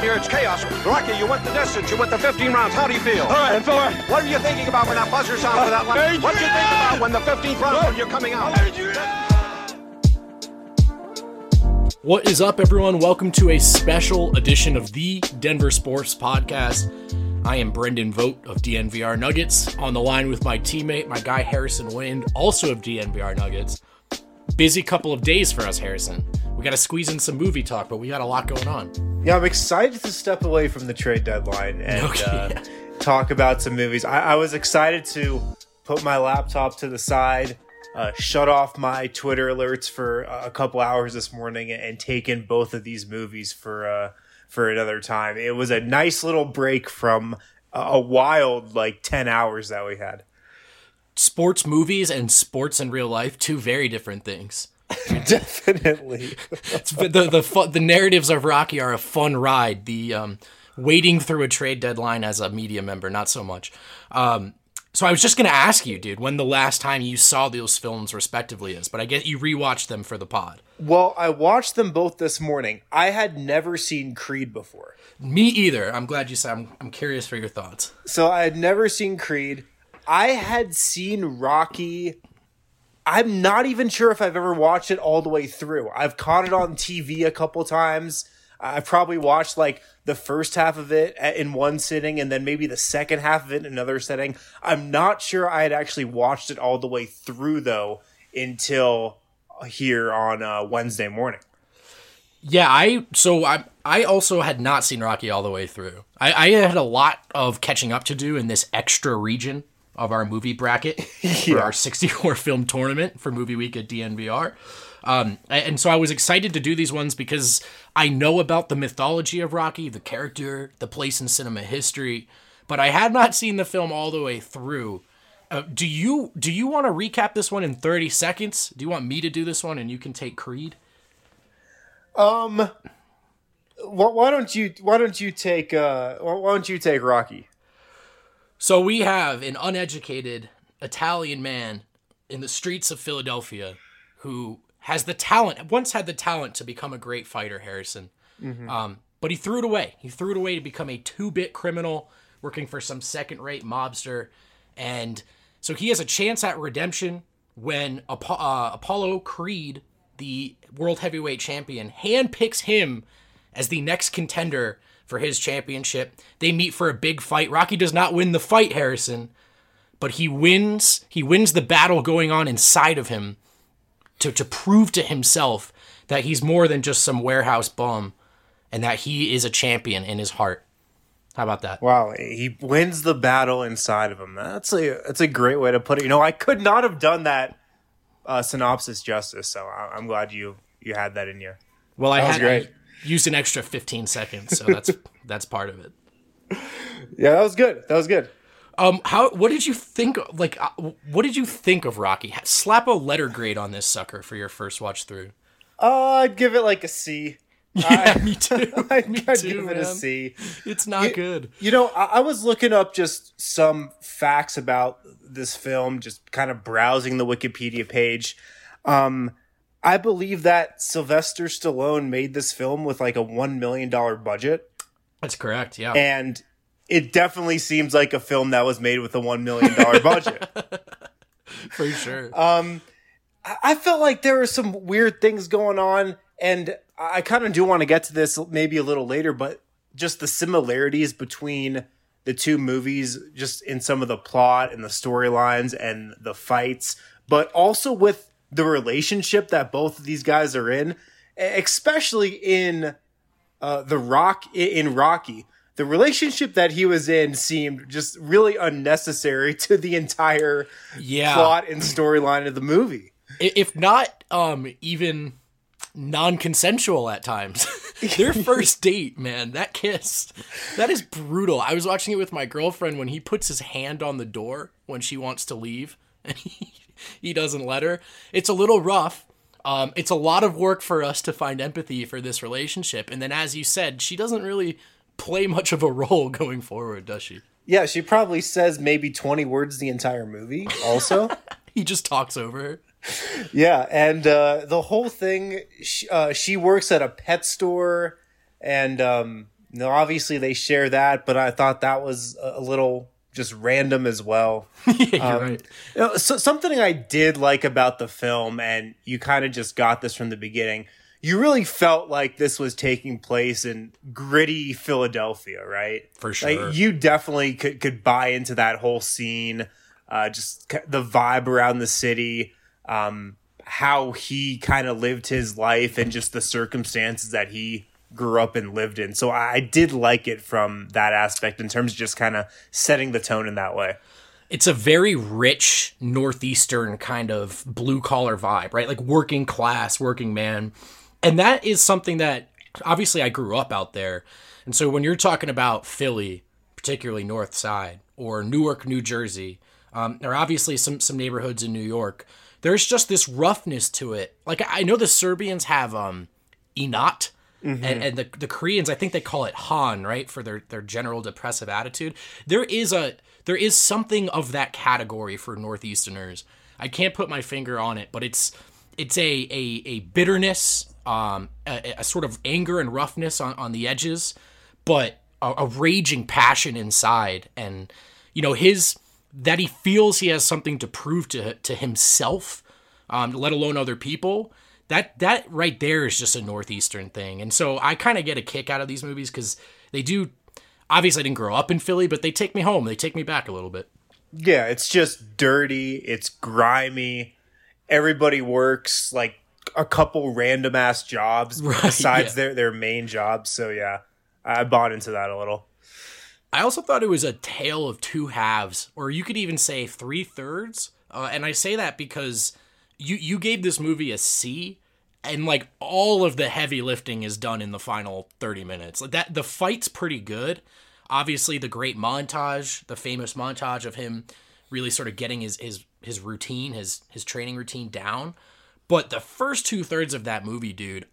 here. It's chaos. Rocky, you went the distance. You went the 15 rounds. How do you feel? All right, Thor. What are you thinking about when that buzzer sounds for that line? What do you think about when the 15th round when you're coming out? What is up, everyone? Welcome to a special edition of the Denver Sports Podcast. I am Brendan Vogt of DNVR Nuggets, on the line with my teammate, my guy Harrison Wind, also of DNVR Nuggets. Busy couple of days for us, Harrison. We got to squeeze in some movie talk, but we got a lot going on. Yeah, I'm excited to step away from the trade deadline and talk about some movies. I was excited to put my laptop to the side, shut off my Twitter alerts for a couple hours this morning, and take in both of these movies for another time. It was a nice little break from a wild 10 hours that we had. Sports movies and sports in real life, two very different things. Definitely. The narratives of Rocky are a fun ride. The waiting through a trade deadline as a media member, not so much. So I was just going to ask you, dude, when the last time you saw those films respectively is, but I get you rewatched them for the pod. Well, I watched them both this morning. I had never seen Creed before. Me either. I'm glad you said. I'm curious for your thoughts. So I had never seen Creed. I had seen Rocky. I'm not even sure if I've ever watched it all the way through. I've caught it on TV a couple times. I've probably watched the first half of it in one sitting and then maybe the second half of it in another setting. I'm not sure I had actually watched it all the way through, though, until here on Wednesday morning. Yeah, I also had not seen Rocky all the way through. I had a lot of catching up to do in this extra region of our movie bracket for our 64 film tournament for Movie Week at DNVR. And so I was excited to do these ones because I know about the mythology of Rocky, the character, the place in cinema history, but I had not seen the film all the way through. Do you want to recap this one in 30 seconds? Do you want me to do this one and you can take Creed? Why don't you take Rocky? So we have an uneducated Italian man in the streets of Philadelphia who once had the talent to become a great fighter, Harrison. Mm-hmm. But he threw it away. He threw it away to become a two-bit criminal working for some second-rate mobster. And so he has a chance at redemption when Apollo Creed, the world heavyweight champion, handpicks him as the next contender for his championship. They meet for a big fight. Rocky does not win the fight, Harrison, but he wins the battle going on inside of him to prove to himself that he's more than just some warehouse bum and that he is a champion in his heart. How about that? Wow, he wins the battle inside of him. That's a great way to put it. I could not have done that synopsis justice, so I'm glad you had that in you. Well, I used an extra 15 seconds, so that's part of it. Yeah, that was good. What did you think? What did you think of Rocky? Slap a letter grade on this sucker for your first watch through. I'd give it a C. Yeah, me too. I'd give it a C. It's not good. I was looking up just some facts about this film, just kind of browsing the Wikipedia page. I believe that Sylvester Stallone made this film with a $1 million budget. That's correct, yeah. And it definitely seems like a film that was made with a $1 million budget. For sure. I felt like there were some weird things going on, and I kind of do want to get to this maybe a little later, but just the similarities between the two movies, just in some of the plot and the storylines and the fights, but also with the relationship that both of these guys are in, especially in Rocky. The relationship that he was in seemed just really unnecessary to the entire plot and storyline of the movie. If not even non-consensual at times. Their first date, man, that kiss, that is brutal. I was watching it with my girlfriend when he puts his hand on the door when she wants to leave and he doesn't let her. It's a little rough. It's a lot of work for us to find empathy for this relationship. And then, as you said, she doesn't really play much of a role going forward, does she? Yeah, she probably says maybe 20 words the entire movie also. He just talks over her. Yeah, and the whole thing, she works at a pet store, and No, obviously they share that, but I thought that was a little just random as well. Yeah, you're right. So something I did like about the film, and you kind of just got this from the beginning, you really felt like this was taking place in gritty Philadelphia, right? For sure. Like, you definitely could buy into that whole scene, just the vibe around the city, how he kind of lived his life and just the circumstances that he grew up and lived in. So I did like it from that aspect in terms of just kind of setting the tone in that way. It's a very rich Northeastern kind of blue collar vibe, right? Like working class, working man. And that is something that obviously I grew up out there. And so when you're talking about Philly, particularly North Side, or Newark, New Jersey, or obviously some neighborhoods in New York, there's just this roughness to it. Like, I know the Serbians have Inat, and the Koreans, I think they call it Han, right, for their general depressive attitude. There is something of that category for Northeasterners. I can't put my finger on it, but it's a bitterness, a sort of anger and roughness on the edges, but a raging passion inside, and that he feels he has something to prove to himself, let alone other people. That right there is just a Northeastern thing. And so I kind of get a kick out of these movies because they do. Obviously, I didn't grow up in Philly, but they take me home. They take me back a little bit. Yeah, it's just dirty. It's grimy. Everybody works like a couple random ass jobs besides their main jobs. So yeah, I bought into that a little. I also thought it was a tale of two halves, or you could even say 3/3. And I say that because you gave this movie a C, and like all of the heavy lifting is done in the final 30 minutes. Like that, the fight's pretty good. Obviously, the great montage, the famous montage of him really sort of getting his routine, his training routine down. But the first 2/3 of that movie, dude,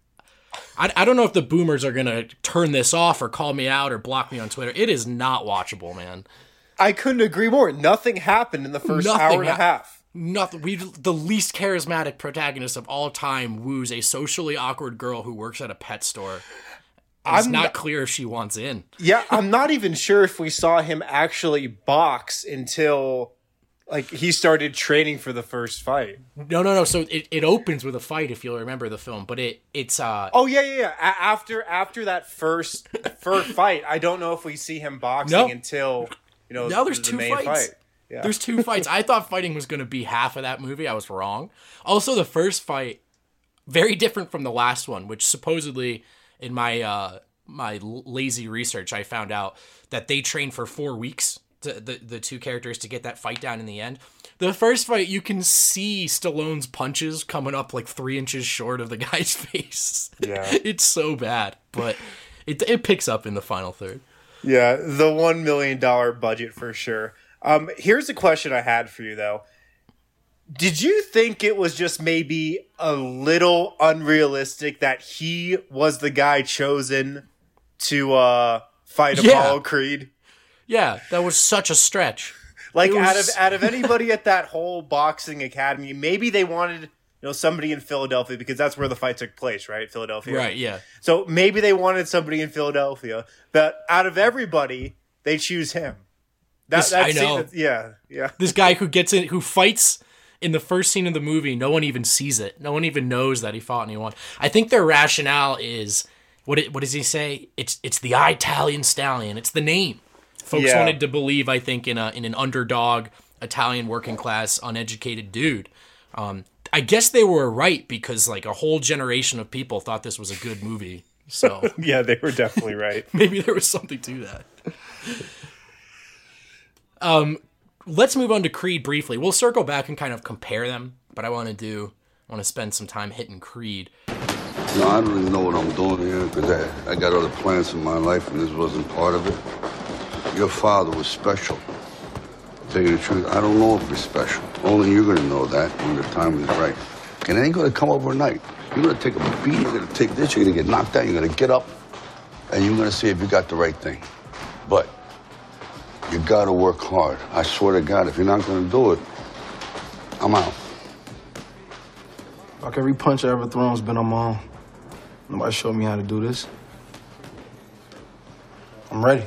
I don't know if the boomers are going to turn this off or call me out or block me on Twitter. It is not watchable, man. I couldn't agree more. Nothing happened in the first hour and a half. Nothing. The least charismatic protagonist of all time woos a socially awkward girl who works at a pet store. It's not clear if she wants in. Yeah, I'm not even sure if we saw him actually box until like he started training for the first fight. No. So it opens with a fight, if you'll remember the film, but it's Oh yeah. After that first fight, I don't know if we see him boxing until now there's two main fights. Fight. Yeah. There's two fights. I thought fighting was going to be half of that movie. I was wrong. Also, the first fight, very different from the last one, which supposedly in my my lazy research, I found out that they trained for 4 weeks, the two characters, to get that fight down in the end. The first fight, you can see Stallone's punches coming up like 3 inches short of the guy's face. Yeah. It's so bad, but it picks up in the final third. Yeah, the $1 million budget for sure. Here's a question I had for you, though. Did you think it was just maybe a little unrealistic that he was the guy chosen to fight Apollo Creed? Yeah, that was such a stretch. Like, out of anybody at that whole boxing academy, maybe they wanted somebody in Philadelphia because that's where the fight took place, right? Philadelphia. Right, yeah. So maybe they wanted somebody in Philadelphia, but out of everybody, they choose him. I know. Yeah. This guy who fights in the first scene of the movie, no one even sees it. No one even knows that he fought and he won. I think their rationale is, what does he say? It's the Italian Stallion. It's the name. Folks wanted to believe, I think, in an underdog, Italian working class, uneducated dude. I guess they were right because like a whole generation of people thought this was a good movie. So yeah, they were definitely right. Maybe there was something to that. Let's move on to Creed briefly. We'll circle back and kind of compare them, but I want to spend some time hitting Creed. No, I don't really know what I'm doing here because I got other plans in my life and this wasn't part of it. Your father was special. To tell you the truth, I don't know if he's special. Only you're going to know that when the time is right. And it ain't going to come overnight. You're going to take a beat, you're going to take this, you're going to get knocked down, you're going to get up, and you're going to see if you got the right thing. But you got to work hard. I swear to God, if you're not going to do it, I'm out. Like every punch I ever thrown has been on my own. Nobody showed me how to do this. I'm ready.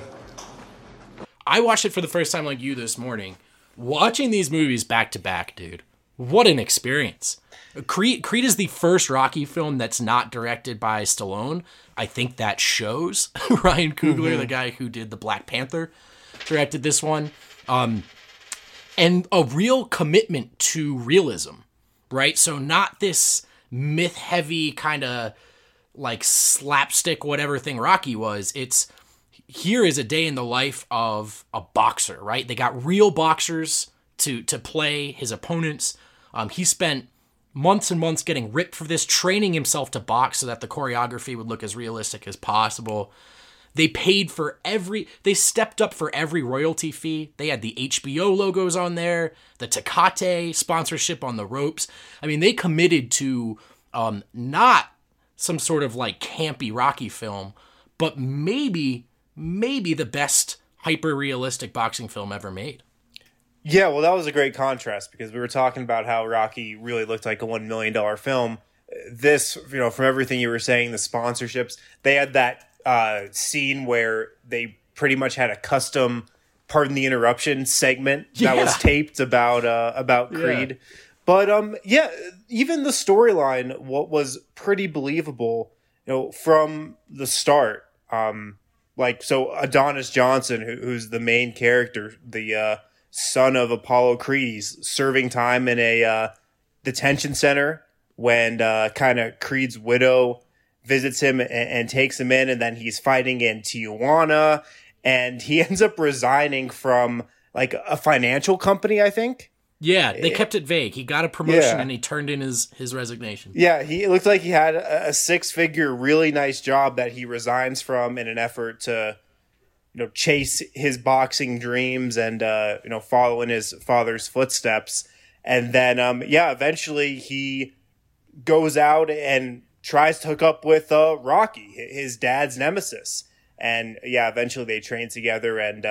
I watched it for the first time like you this morning. Watching these movies back to back, dude, what an experience. Creed is the first Rocky film that's not directed by Stallone. I think that shows. Ryan Coogler, the guy who did the Black Panther, directed this one. And a real commitment to realism, right? So not this myth-heavy kind of like slapstick whatever thing Rocky was. It's here is a day in the life of a boxer, right? They got real boxers to play his opponents. He spent months and months getting ripped for this, training himself to box so that the choreography would look as realistic as possible. They stepped up for every royalty fee. They had the HBO logos on there, the Tecate sponsorship on the ropes. I mean, they committed to not some sort of like campy Rocky film, but maybe the best hyper-realistic boxing film ever made. Yeah, well, that was a great contrast because we were talking about how Rocky really looked like a $1 million film. This, from everything you were saying, the sponsorships, they had that scene where they pretty much had a custom, pardon the interruption, segment that was taped about Creed. Yeah. But even the storyline, what was pretty believable, from the start. So Adonis Johnson, who's the main character, the son of Apollo Creed, he's serving time in a detention center when kind of Creed's widow visits him and takes him in, and then he's fighting in Tijuana, and he ends up resigning from like a financial company, I think. Yeah, they kept it vague. He got a promotion and he turned in his resignation. Yeah, it looked like he had a six-figure, really nice job that he resigns from in an effort to, chase his boxing dreams and, follow in his father's footsteps. And then, eventually he goes out and tries to hook up with Rocky, his dad's nemesis. And, eventually they train together and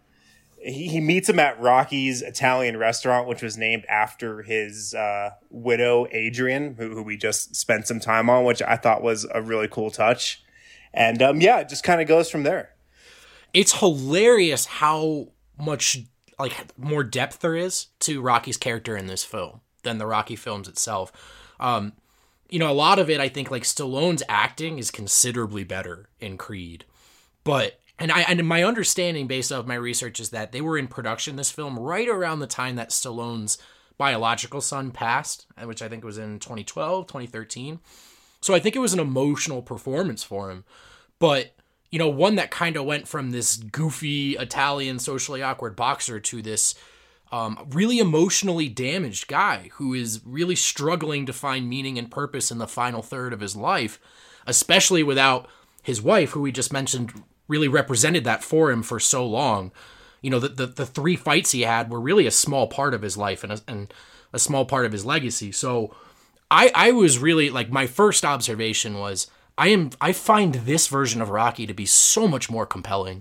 he meets him at Rocky's Italian restaurant, which was named after his widow, Adrian, who we just spent some time on, which I thought was a really cool touch. And, it just kind of goes from there. It's hilarious how much more depth there is to Rocky's character in this film than the Rocky films itself. A lot of it, I think, Stallone's acting is considerably better in Creed. But, and my understanding based off my research is that they were in production this film right around the time that Stallone's biological son passed, which I think was in 2012, 2013. So I think it was an emotional performance for him. But, one that kind of went from this goofy Italian socially awkward boxer to this really emotionally damaged guy who is really struggling to find meaning and purpose in the final third of his life, especially without his wife, who we just mentioned really represented that for him for so long. The three fights he had were really a small part of his life and a small part of his legacy. So I was really my first observation was I find this version of Rocky to be so much more compelling.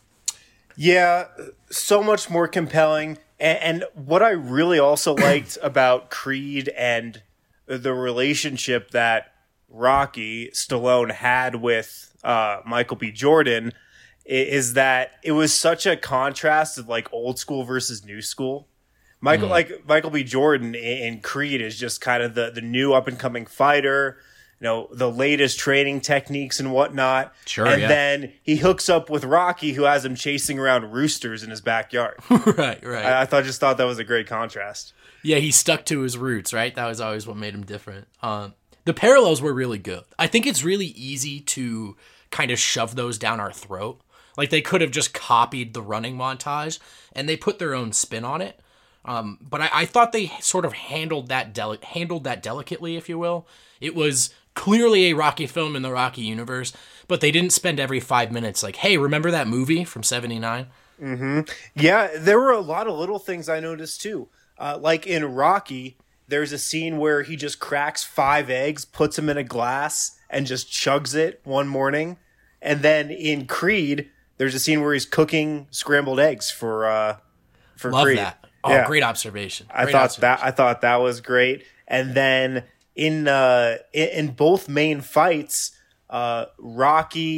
Yeah, so much more compelling. And what I really also liked about Creed and the relationship that Rocky Stallone had with Michael B. Jordan is that it was such a contrast of old school versus new school. Michael B. Jordan in Creed is just kind of the new up and coming fighter, the latest training techniques and whatnot. Sure, and then he hooks up with Rocky, who has him chasing around roosters in his backyard. Right. I thought that was a great contrast. Yeah, he stuck to his roots, right? That was always what made him different. The parallels were really good. I think it's really easy to kind of shove those down our throat. They could have just copied the running montage, and they put their own spin on it. But I thought they sort of handled that delicately, if you will. It was clearly a Rocky film in the Rocky universe, but they didn't spend every 5 minutes hey, remember that movie from 79? Mm-hmm. Yeah, there were a lot of little things I noticed too. In Rocky, there's a scene where he just cracks 5 eggs, puts them in a glass, and just chugs it one morning. And then in Creed, there's a scene where he's cooking scrambled eggs for Love Creed. That. Oh, yeah. Great observation. I thought that was great. And then in both main fights, Rocky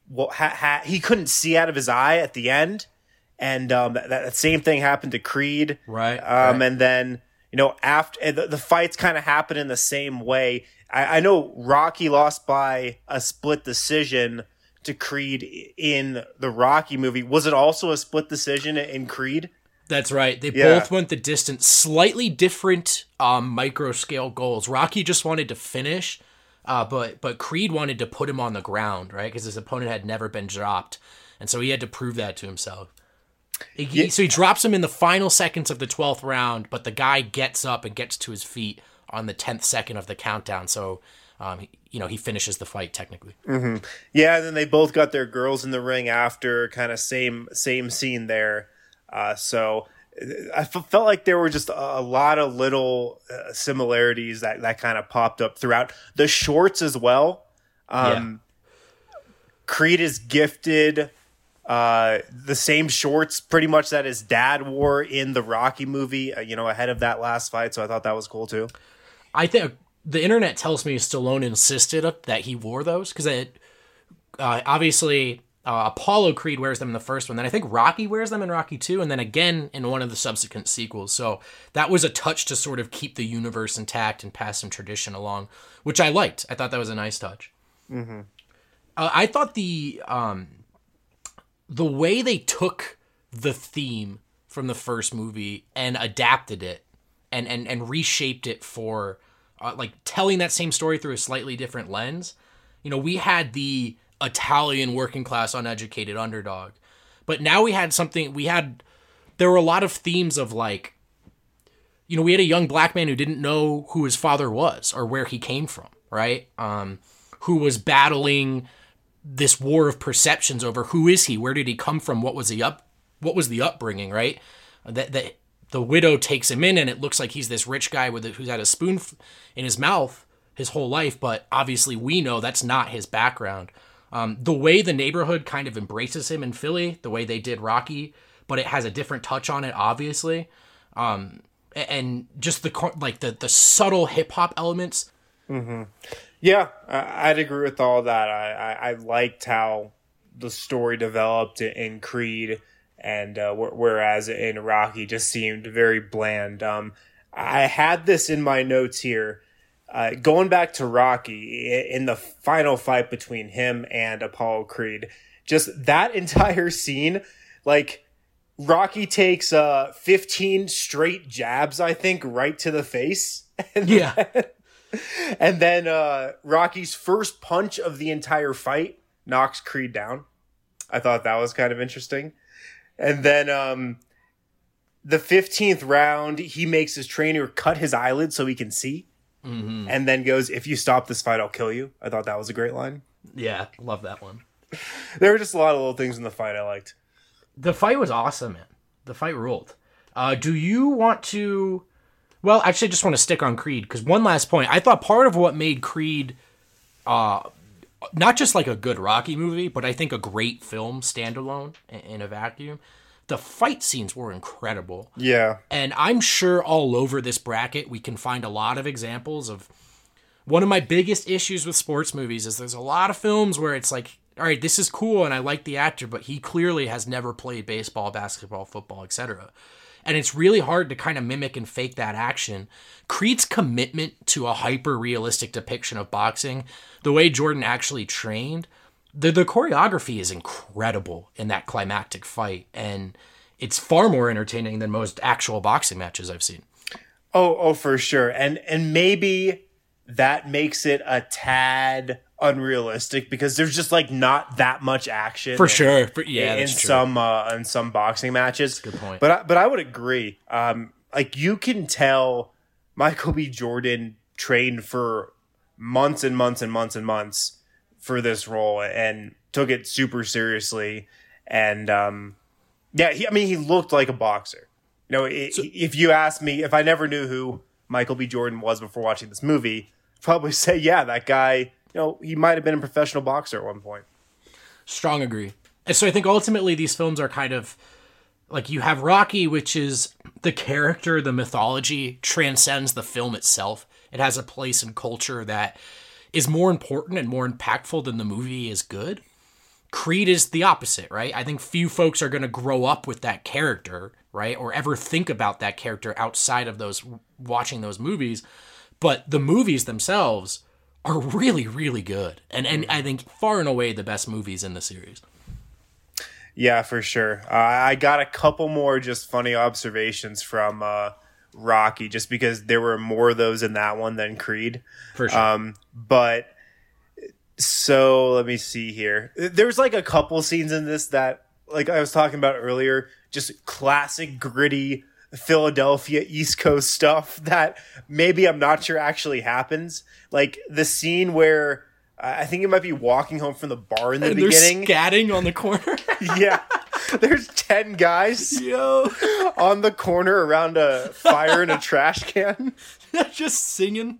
he couldn't see out of his eye at the end, and that same thing happened to Creed. Right. And then after the fights kind of happen in the same way. I know Rocky lost by a split decision to Creed in the Rocky movie. Was it also a split decision in Creed? That's right. They both went the distance. Slightly different micro scale goals. Rocky just wanted to finish, but Creed wanted to put him on the ground, right? Because his opponent had never been dropped, and so he had to prove that to himself. So he drops him in the final seconds of the 12th round, but the guy gets up and gets to his feet on the 10th second of the countdown. So, he finishes the fight technically. Mm-hmm. Yeah, and then they both got their girls in the ring after, kind of same scene there. So I felt like there were just a lot of little similarities that kind of popped up throughout the shorts as well. Creed is gifted the same shorts pretty much that his dad wore in the Rocky movie, ahead of that last fight. So I thought that was cool too. I think the internet tells me Stallone insisted that he wore those because obviously Apollo Creed wears them in the first one. Then I think Rocky wears them in Rocky 2 and then again in one of the subsequent sequels. So that was a touch to sort of keep the universe intact and pass some tradition along, which I liked. I thought that was a nice touch. Mm-hmm. I thought the way they took the theme from the first movie and adapted it and reshaped it for telling that same story through a slightly different lens. We had the Italian working class uneducated underdog, but now there were a lot of themes of we had a young black man who didn't know who his father was or where he came from, right? Who was battling this war of perceptions over who is he, where did he come from, what was the upbringing, right? That the widow takes him in, and it looks like he's this rich guy who's had a spoon in his mouth his whole life, but obviously we know that's not his background. The way the neighborhood kind of embraces him in Philly, the way they did Rocky, but it has a different touch on it, obviously, and just the subtle hip hop elements. Mm-hmm. Yeah, I'd agree with all that. I liked how the story developed in Creed, and whereas in Rocky just seemed very bland. I had this in my notes here. Going back to Rocky, in the final fight between him and Apollo Creed, just that entire scene, Rocky takes 15 straight jabs, I think, right to the face. And then Rocky's first punch of the entire fight knocks Creed down. I thought that was kind of interesting. And then the 15th round, he makes his trainer cut his eyelids so he can see. Mm-hmm. And then goes, "If you stop this fight, I'll kill you." I thought that was a great line. Yeah, love that one. There were just a lot of little things in the fight I liked. The fight was awesome, man. The fight ruled. Do you want to... Well, actually, I just want to stick on Creed, because one last point. I thought part of what made Creed not just a good Rocky movie, but I think a great film standalone in a vacuum, the fight scenes were incredible. Yeah. And I'm sure all over this bracket we can find a lot of examples of... One of my biggest issues with sports movies is there's a lot of films where it's all right, this is cool and I like the actor, but he clearly has never played baseball, basketball, football, etc. And it's really hard to kind of mimic and fake that action. Creed's commitment to a hyper-realistic depiction of boxing, the way Jordan actually trained, the choreography is incredible in that climactic fight, and it's far more entertaining than most actual boxing matches I've seen. Oh, for sure. And maybe that makes it a tad unrealistic because there's just not that much action for sure. In some boxing matches. That's a good point. But I would agree. You can tell Michael B. Jordan trained for months and months and months and months for this role and took it super seriously. And he looked like a boxer. If you asked me, if I never knew who Michael B. Jordan was before watching this movie, I'd probably say, yeah, that guy, he might have been a professional boxer at one point. Strong agree. And so I think ultimately these films are kind of you have Rocky, which is the character, the mythology transcends the film itself. It has a place in culture that is more important and more impactful than the movie is good. Creed is the opposite, right? I think few folks are going to grow up with that character, right? Or ever think about that character outside of those watching those movies. But the movies themselves are really, really good. And I think far and away the best movies in the series. Yeah, for sure. I got a couple more just funny observations from Rocky, just because there were more of those in that one than Creed. For sure. But so let me see here. There's like a couple scenes in this that, like I was talking about earlier, just classic gritty Philadelphia East Coast stuff that maybe I'm not sure actually happens. Like the scene where I think it might be walking home from the bar in the beginning. They're scatting on the corner. Yeah. There's 10 guys on the corner around a fire in a trash can. Just singing.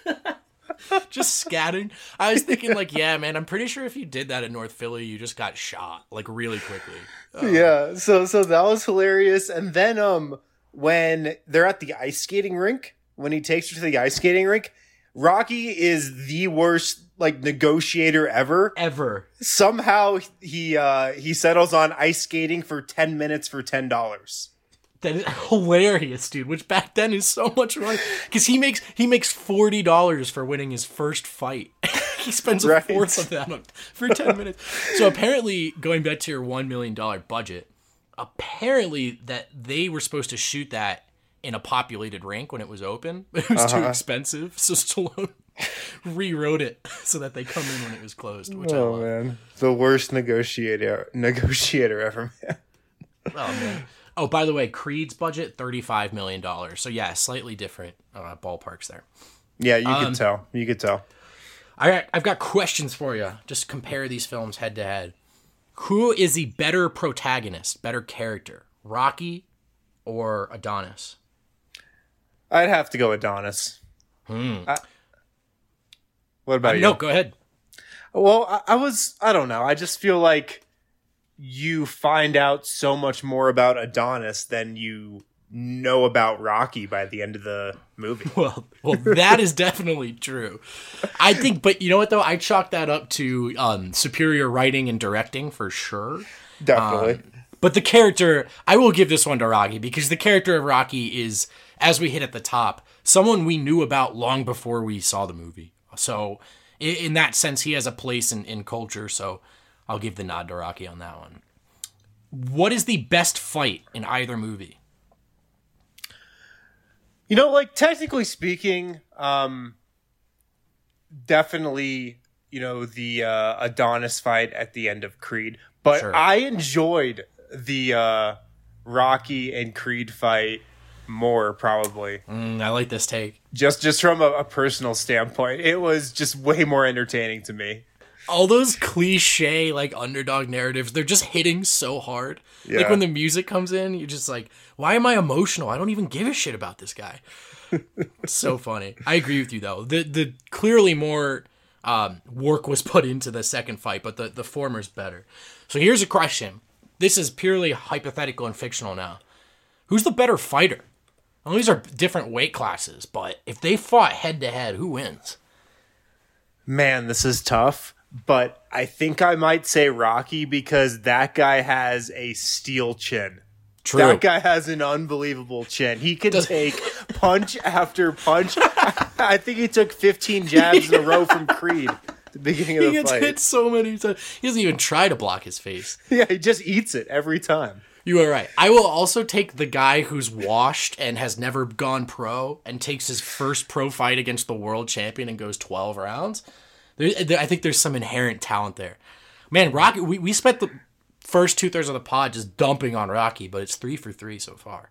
Just scatting. I was thinking like, yeah, man, I'm pretty sure if you did that in North Philly, you just got shot like really quickly. Yeah. So that was hilarious. And then when they're at the ice skating rink, when he takes her to the ice skating rink, Rocky is the worst like negotiator ever. Somehow he settles on ice skating for 10 minutes for $10. That is hilarious, dude. Which back then is so much money because he makes $40 for winning his first fight. He spends a fourth of that for 10 minutes. So apparently, going back to your $1 million budget, apparently that they were supposed to shoot that in a populated rink when it was open. It was too expensive, so Stallone rewrote it so that they come in when it was closed. Which I love. Man, the worst negotiator ever, man. Oh man. Oh, by the way, Creed's budget $35 million. So yeah, slightly different ballparks there. Yeah, you could tell. You could tell. All right, I've got questions for you. Just compare these films head to head. Who is the better protagonist, better character, Rocky or Adonis? I'd have to go Adonis. What about you? No, go ahead. Well, I don't know. I just feel like you find out so much more about Adonis than you know about Rocky by the end of the movie. Well, that is definitely true. I think, but you know what though? I chalk that up to superior writing and directing for sure. Definitely. But the character, I will give this one to Rocky because the character of Rocky is, as we hit at the top, someone we knew about long before we saw the movie. So in that sense, he has a place in culture. So I'll give the nod to Rocky on that one. What is the best fight in either movie? You know, like technically speaking, definitely, you know, the Adonis fight at the end of Creed. But sure. I enjoyed the Rocky and Creed fight more, probably. I like this take. Just from a personal standpoint, it was just way more entertaining to me. All those cliche like underdog narratives, they're just hitting so hard. Yeah. Like when the music comes in, you're just like, why am I emotional? I don't even give a shit about this guy. It's so funny. I agree with you though. The clearly more work was put into the second fight, but the former's better. So here's a question. This is purely hypothetical and fictional now. Who's the better fighter? Well, these are different weight classes, but if they fought head to head, who wins? Man, this is tough. But I think I might say Rocky because that guy has a steel chin. True. That guy has an unbelievable chin. He can take punch after punch. I think he took 15 jabs in a row from Creed at the beginning of the fight. He gets hit so many times. He doesn't even try to block his face. Yeah, he just eats it every time. You are right. I will also take the guy who's washed and has never gone pro and takes his first pro fight against the world champion and goes 12 rounds. I think there's some inherent talent there. Man, Rocky, we spent the first 2/3 of the pod just dumping on Rocky, but it's 3 for 3 so far.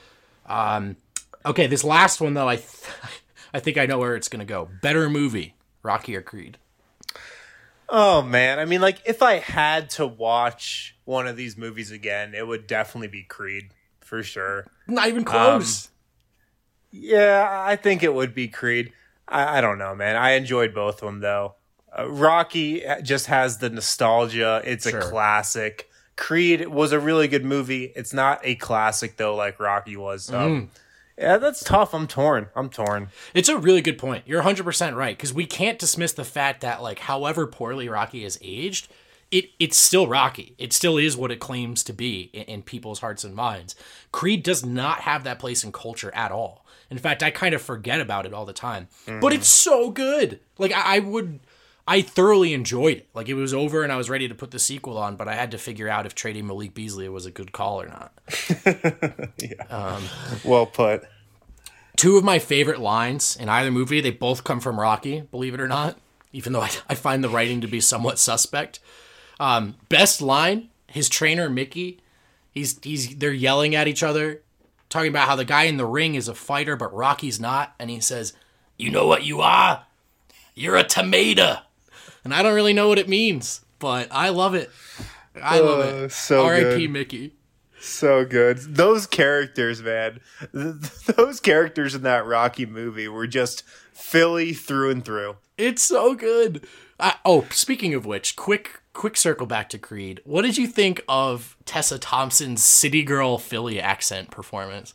Okay, this last one, though, I think I know where it's going to go. Better movie, Rocky or Creed? Oh, man. I mean, like, if I had to watch one of these movies again, it would definitely be Creed, for sure. Not even close. Yeah, I think it would be Creed. I don't know, man. I enjoyed both of them, though. Rocky just has the nostalgia. It's a classic. Creed was a really good movie. It's not a classic, though, like Rocky was. So, yeah, that's tough. I'm torn. It's a really good point. You're 100% right, because we can't dismiss the fact that, like, however poorly Rocky is aged, it's still Rocky. It still is what it claims to be in people's hearts and minds. Creed does not have that place in culture at all. In fact, I kind of forget about it all the time. But it's so good. Like, I thoroughly enjoyed it. Like, it was over and I was ready to put the sequel on, but I had to figure out if trading Malik Beasley was a good call or not. Yeah. Well put. Two of my favorite lines in either movie, they both come from Rocky, believe it or not, even though I find the writing to be somewhat suspect. Best line, his trainer, Mickey, they're yelling at each other, talking about how the guy in the ring is a fighter, but Rocky's not. And he says, "You know what you are? You're a tomato." And I don't really know what it means, but I love it. I love it. So R.I.P. good. Mickey. So good. Those characters, man. Those characters in that Rocky movie were just Philly through and through. It's so good. Speaking of which, quick circle back to Creed. What did you think of Tessa Thompson's City Girl Philly accent performance?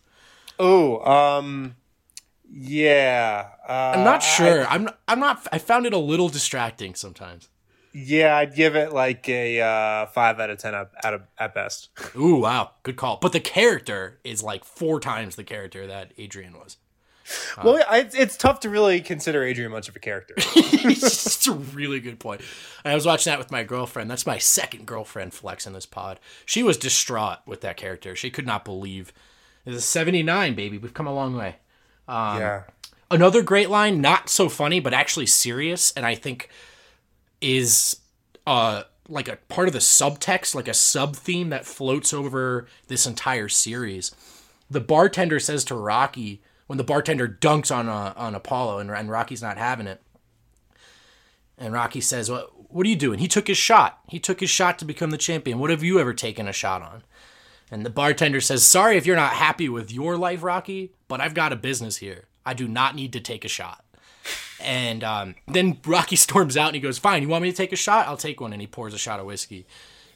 Yeah. I'm not sure. I'm not. I found it a little distracting sometimes. Yeah, I'd give it like a 5 out of 10 at best. Ooh, wow, good call. But the character is like 4 times the character that Adrian was. Well, it's tough to really consider Adrian much of a character. It's a really good point. I was watching that with my girlfriend. That's my second girlfriend flex in this pod. She was distraught with that character. She could not believe. It's a 79, baby. We've come a long way. Yeah. Another great line, not so funny, but actually serious, and I think is like a part of the subtext, like a sub-theme that floats over this entire series. The bartender says to Rocky, when the bartender dunks on Apollo and Rocky's not having it, and Rocky says, what are you doing? He took his shot. He took his shot to become the champion. What have you ever taken a shot on? And the bartender says, sorry if you're not happy with your life, Rocky, but I've got a business here. I do not need to take a shot. And then Rocky storms out and he goes, fine, you want me to take a shot? I'll take one. And he pours a shot of whiskey.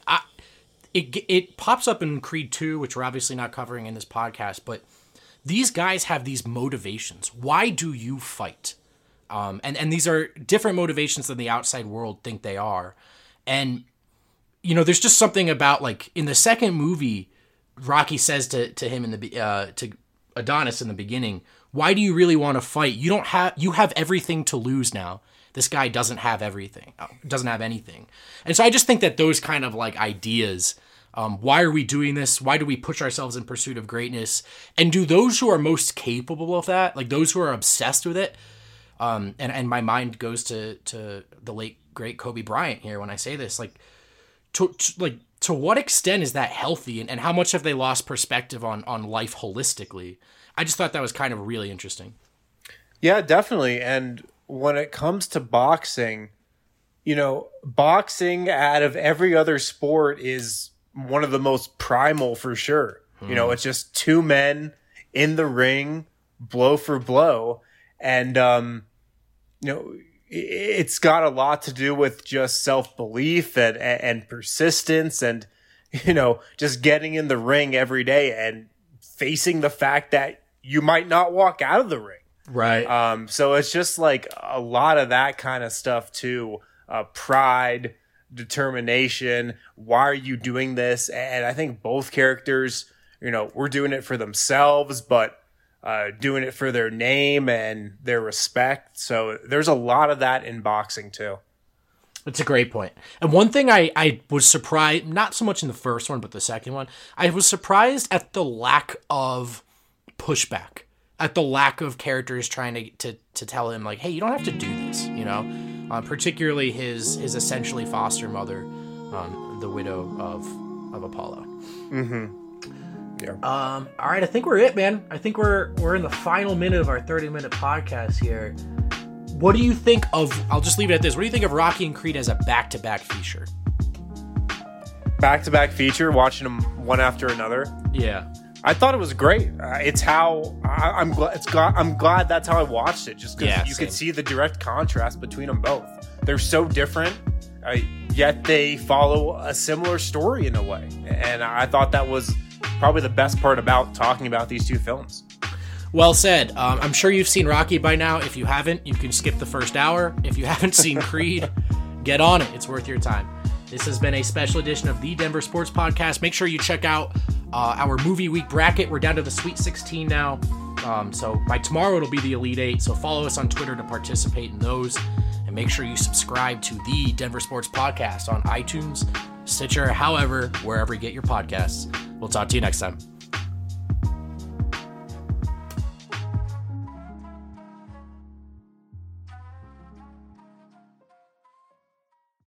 It pops up in Creed 2, which we're obviously not covering in this podcast, but these guys have these motivations. Why do you fight? And these are different motivations than the outside world think they are. And, you know, there's just something about, like, in the second movie, Rocky says to him to Adonis in the beginning, why do you really want to fight? You have everything to lose now. This guy doesn't have everything, doesn't have anything. And so I just think that those kind of like ideas, why are we doing this? Why do we push ourselves in pursuit of greatness? And do those who are most capable of that, like those who are obsessed with it, and my mind goes to the late great Kobe Bryant here when I say this, like to what extent is that healthy, and how much have they lost perspective on life holistically? I just thought that was kind of really interesting. Yeah, definitely. And when it comes to boxing, you know, boxing out of every other sport is one of the most primal for sure. You know, it's just two men in the ring, blow for blow. And, you know, it's got a lot to do with just self-belief and persistence and, you know, just getting in the ring every day and facing the fact that you might not walk out of the ring. Right. So it's just like a lot of that kind of stuff too. Pride, determination. Why are you doing this? And I think both characters, you know, were doing it for themselves, but doing it for their name and their respect. So there's a lot of that in boxing too. That's a great point. And one thing I was surprised, not so much in the first one, but the second one, I was surprised at the lack of pushback, at the lack of characters trying to tell him, like, hey, you don't have to do this, you know? Particularly his essentially foster mother, the widow of Apollo. Mm-hmm. Yeah. All right, I think we're it, man. I think we're in the final minute of our 30-minute podcast here. What do you think of, I'll just leave it at this, what do you think of Rocky and Creed as a back-to-back feature? Back-to-back feature, watching them one after another? Yeah. I thought it was great. It's how I'm glad that's how I watched it. Just because you could see the direct contrast between them both. They're so different, yet they follow a similar story in a way. And I thought that was probably the best part about talking about these two films. Well said. I'm sure you've seen Rocky by now. If you haven't, you can skip the first hour. If you haven't seen Creed, get on it. It's worth your time. This has been a special edition of the Denver Sports Podcast. Make sure you check out our movie week bracket. We're down to the Sweet 16 now. So by tomorrow, it'll be the Elite 8. So follow us on Twitter to participate in those. And make sure you subscribe to the Denver Sports Podcast on iTunes, Stitcher, however, wherever you get your podcasts. We'll talk to you next time.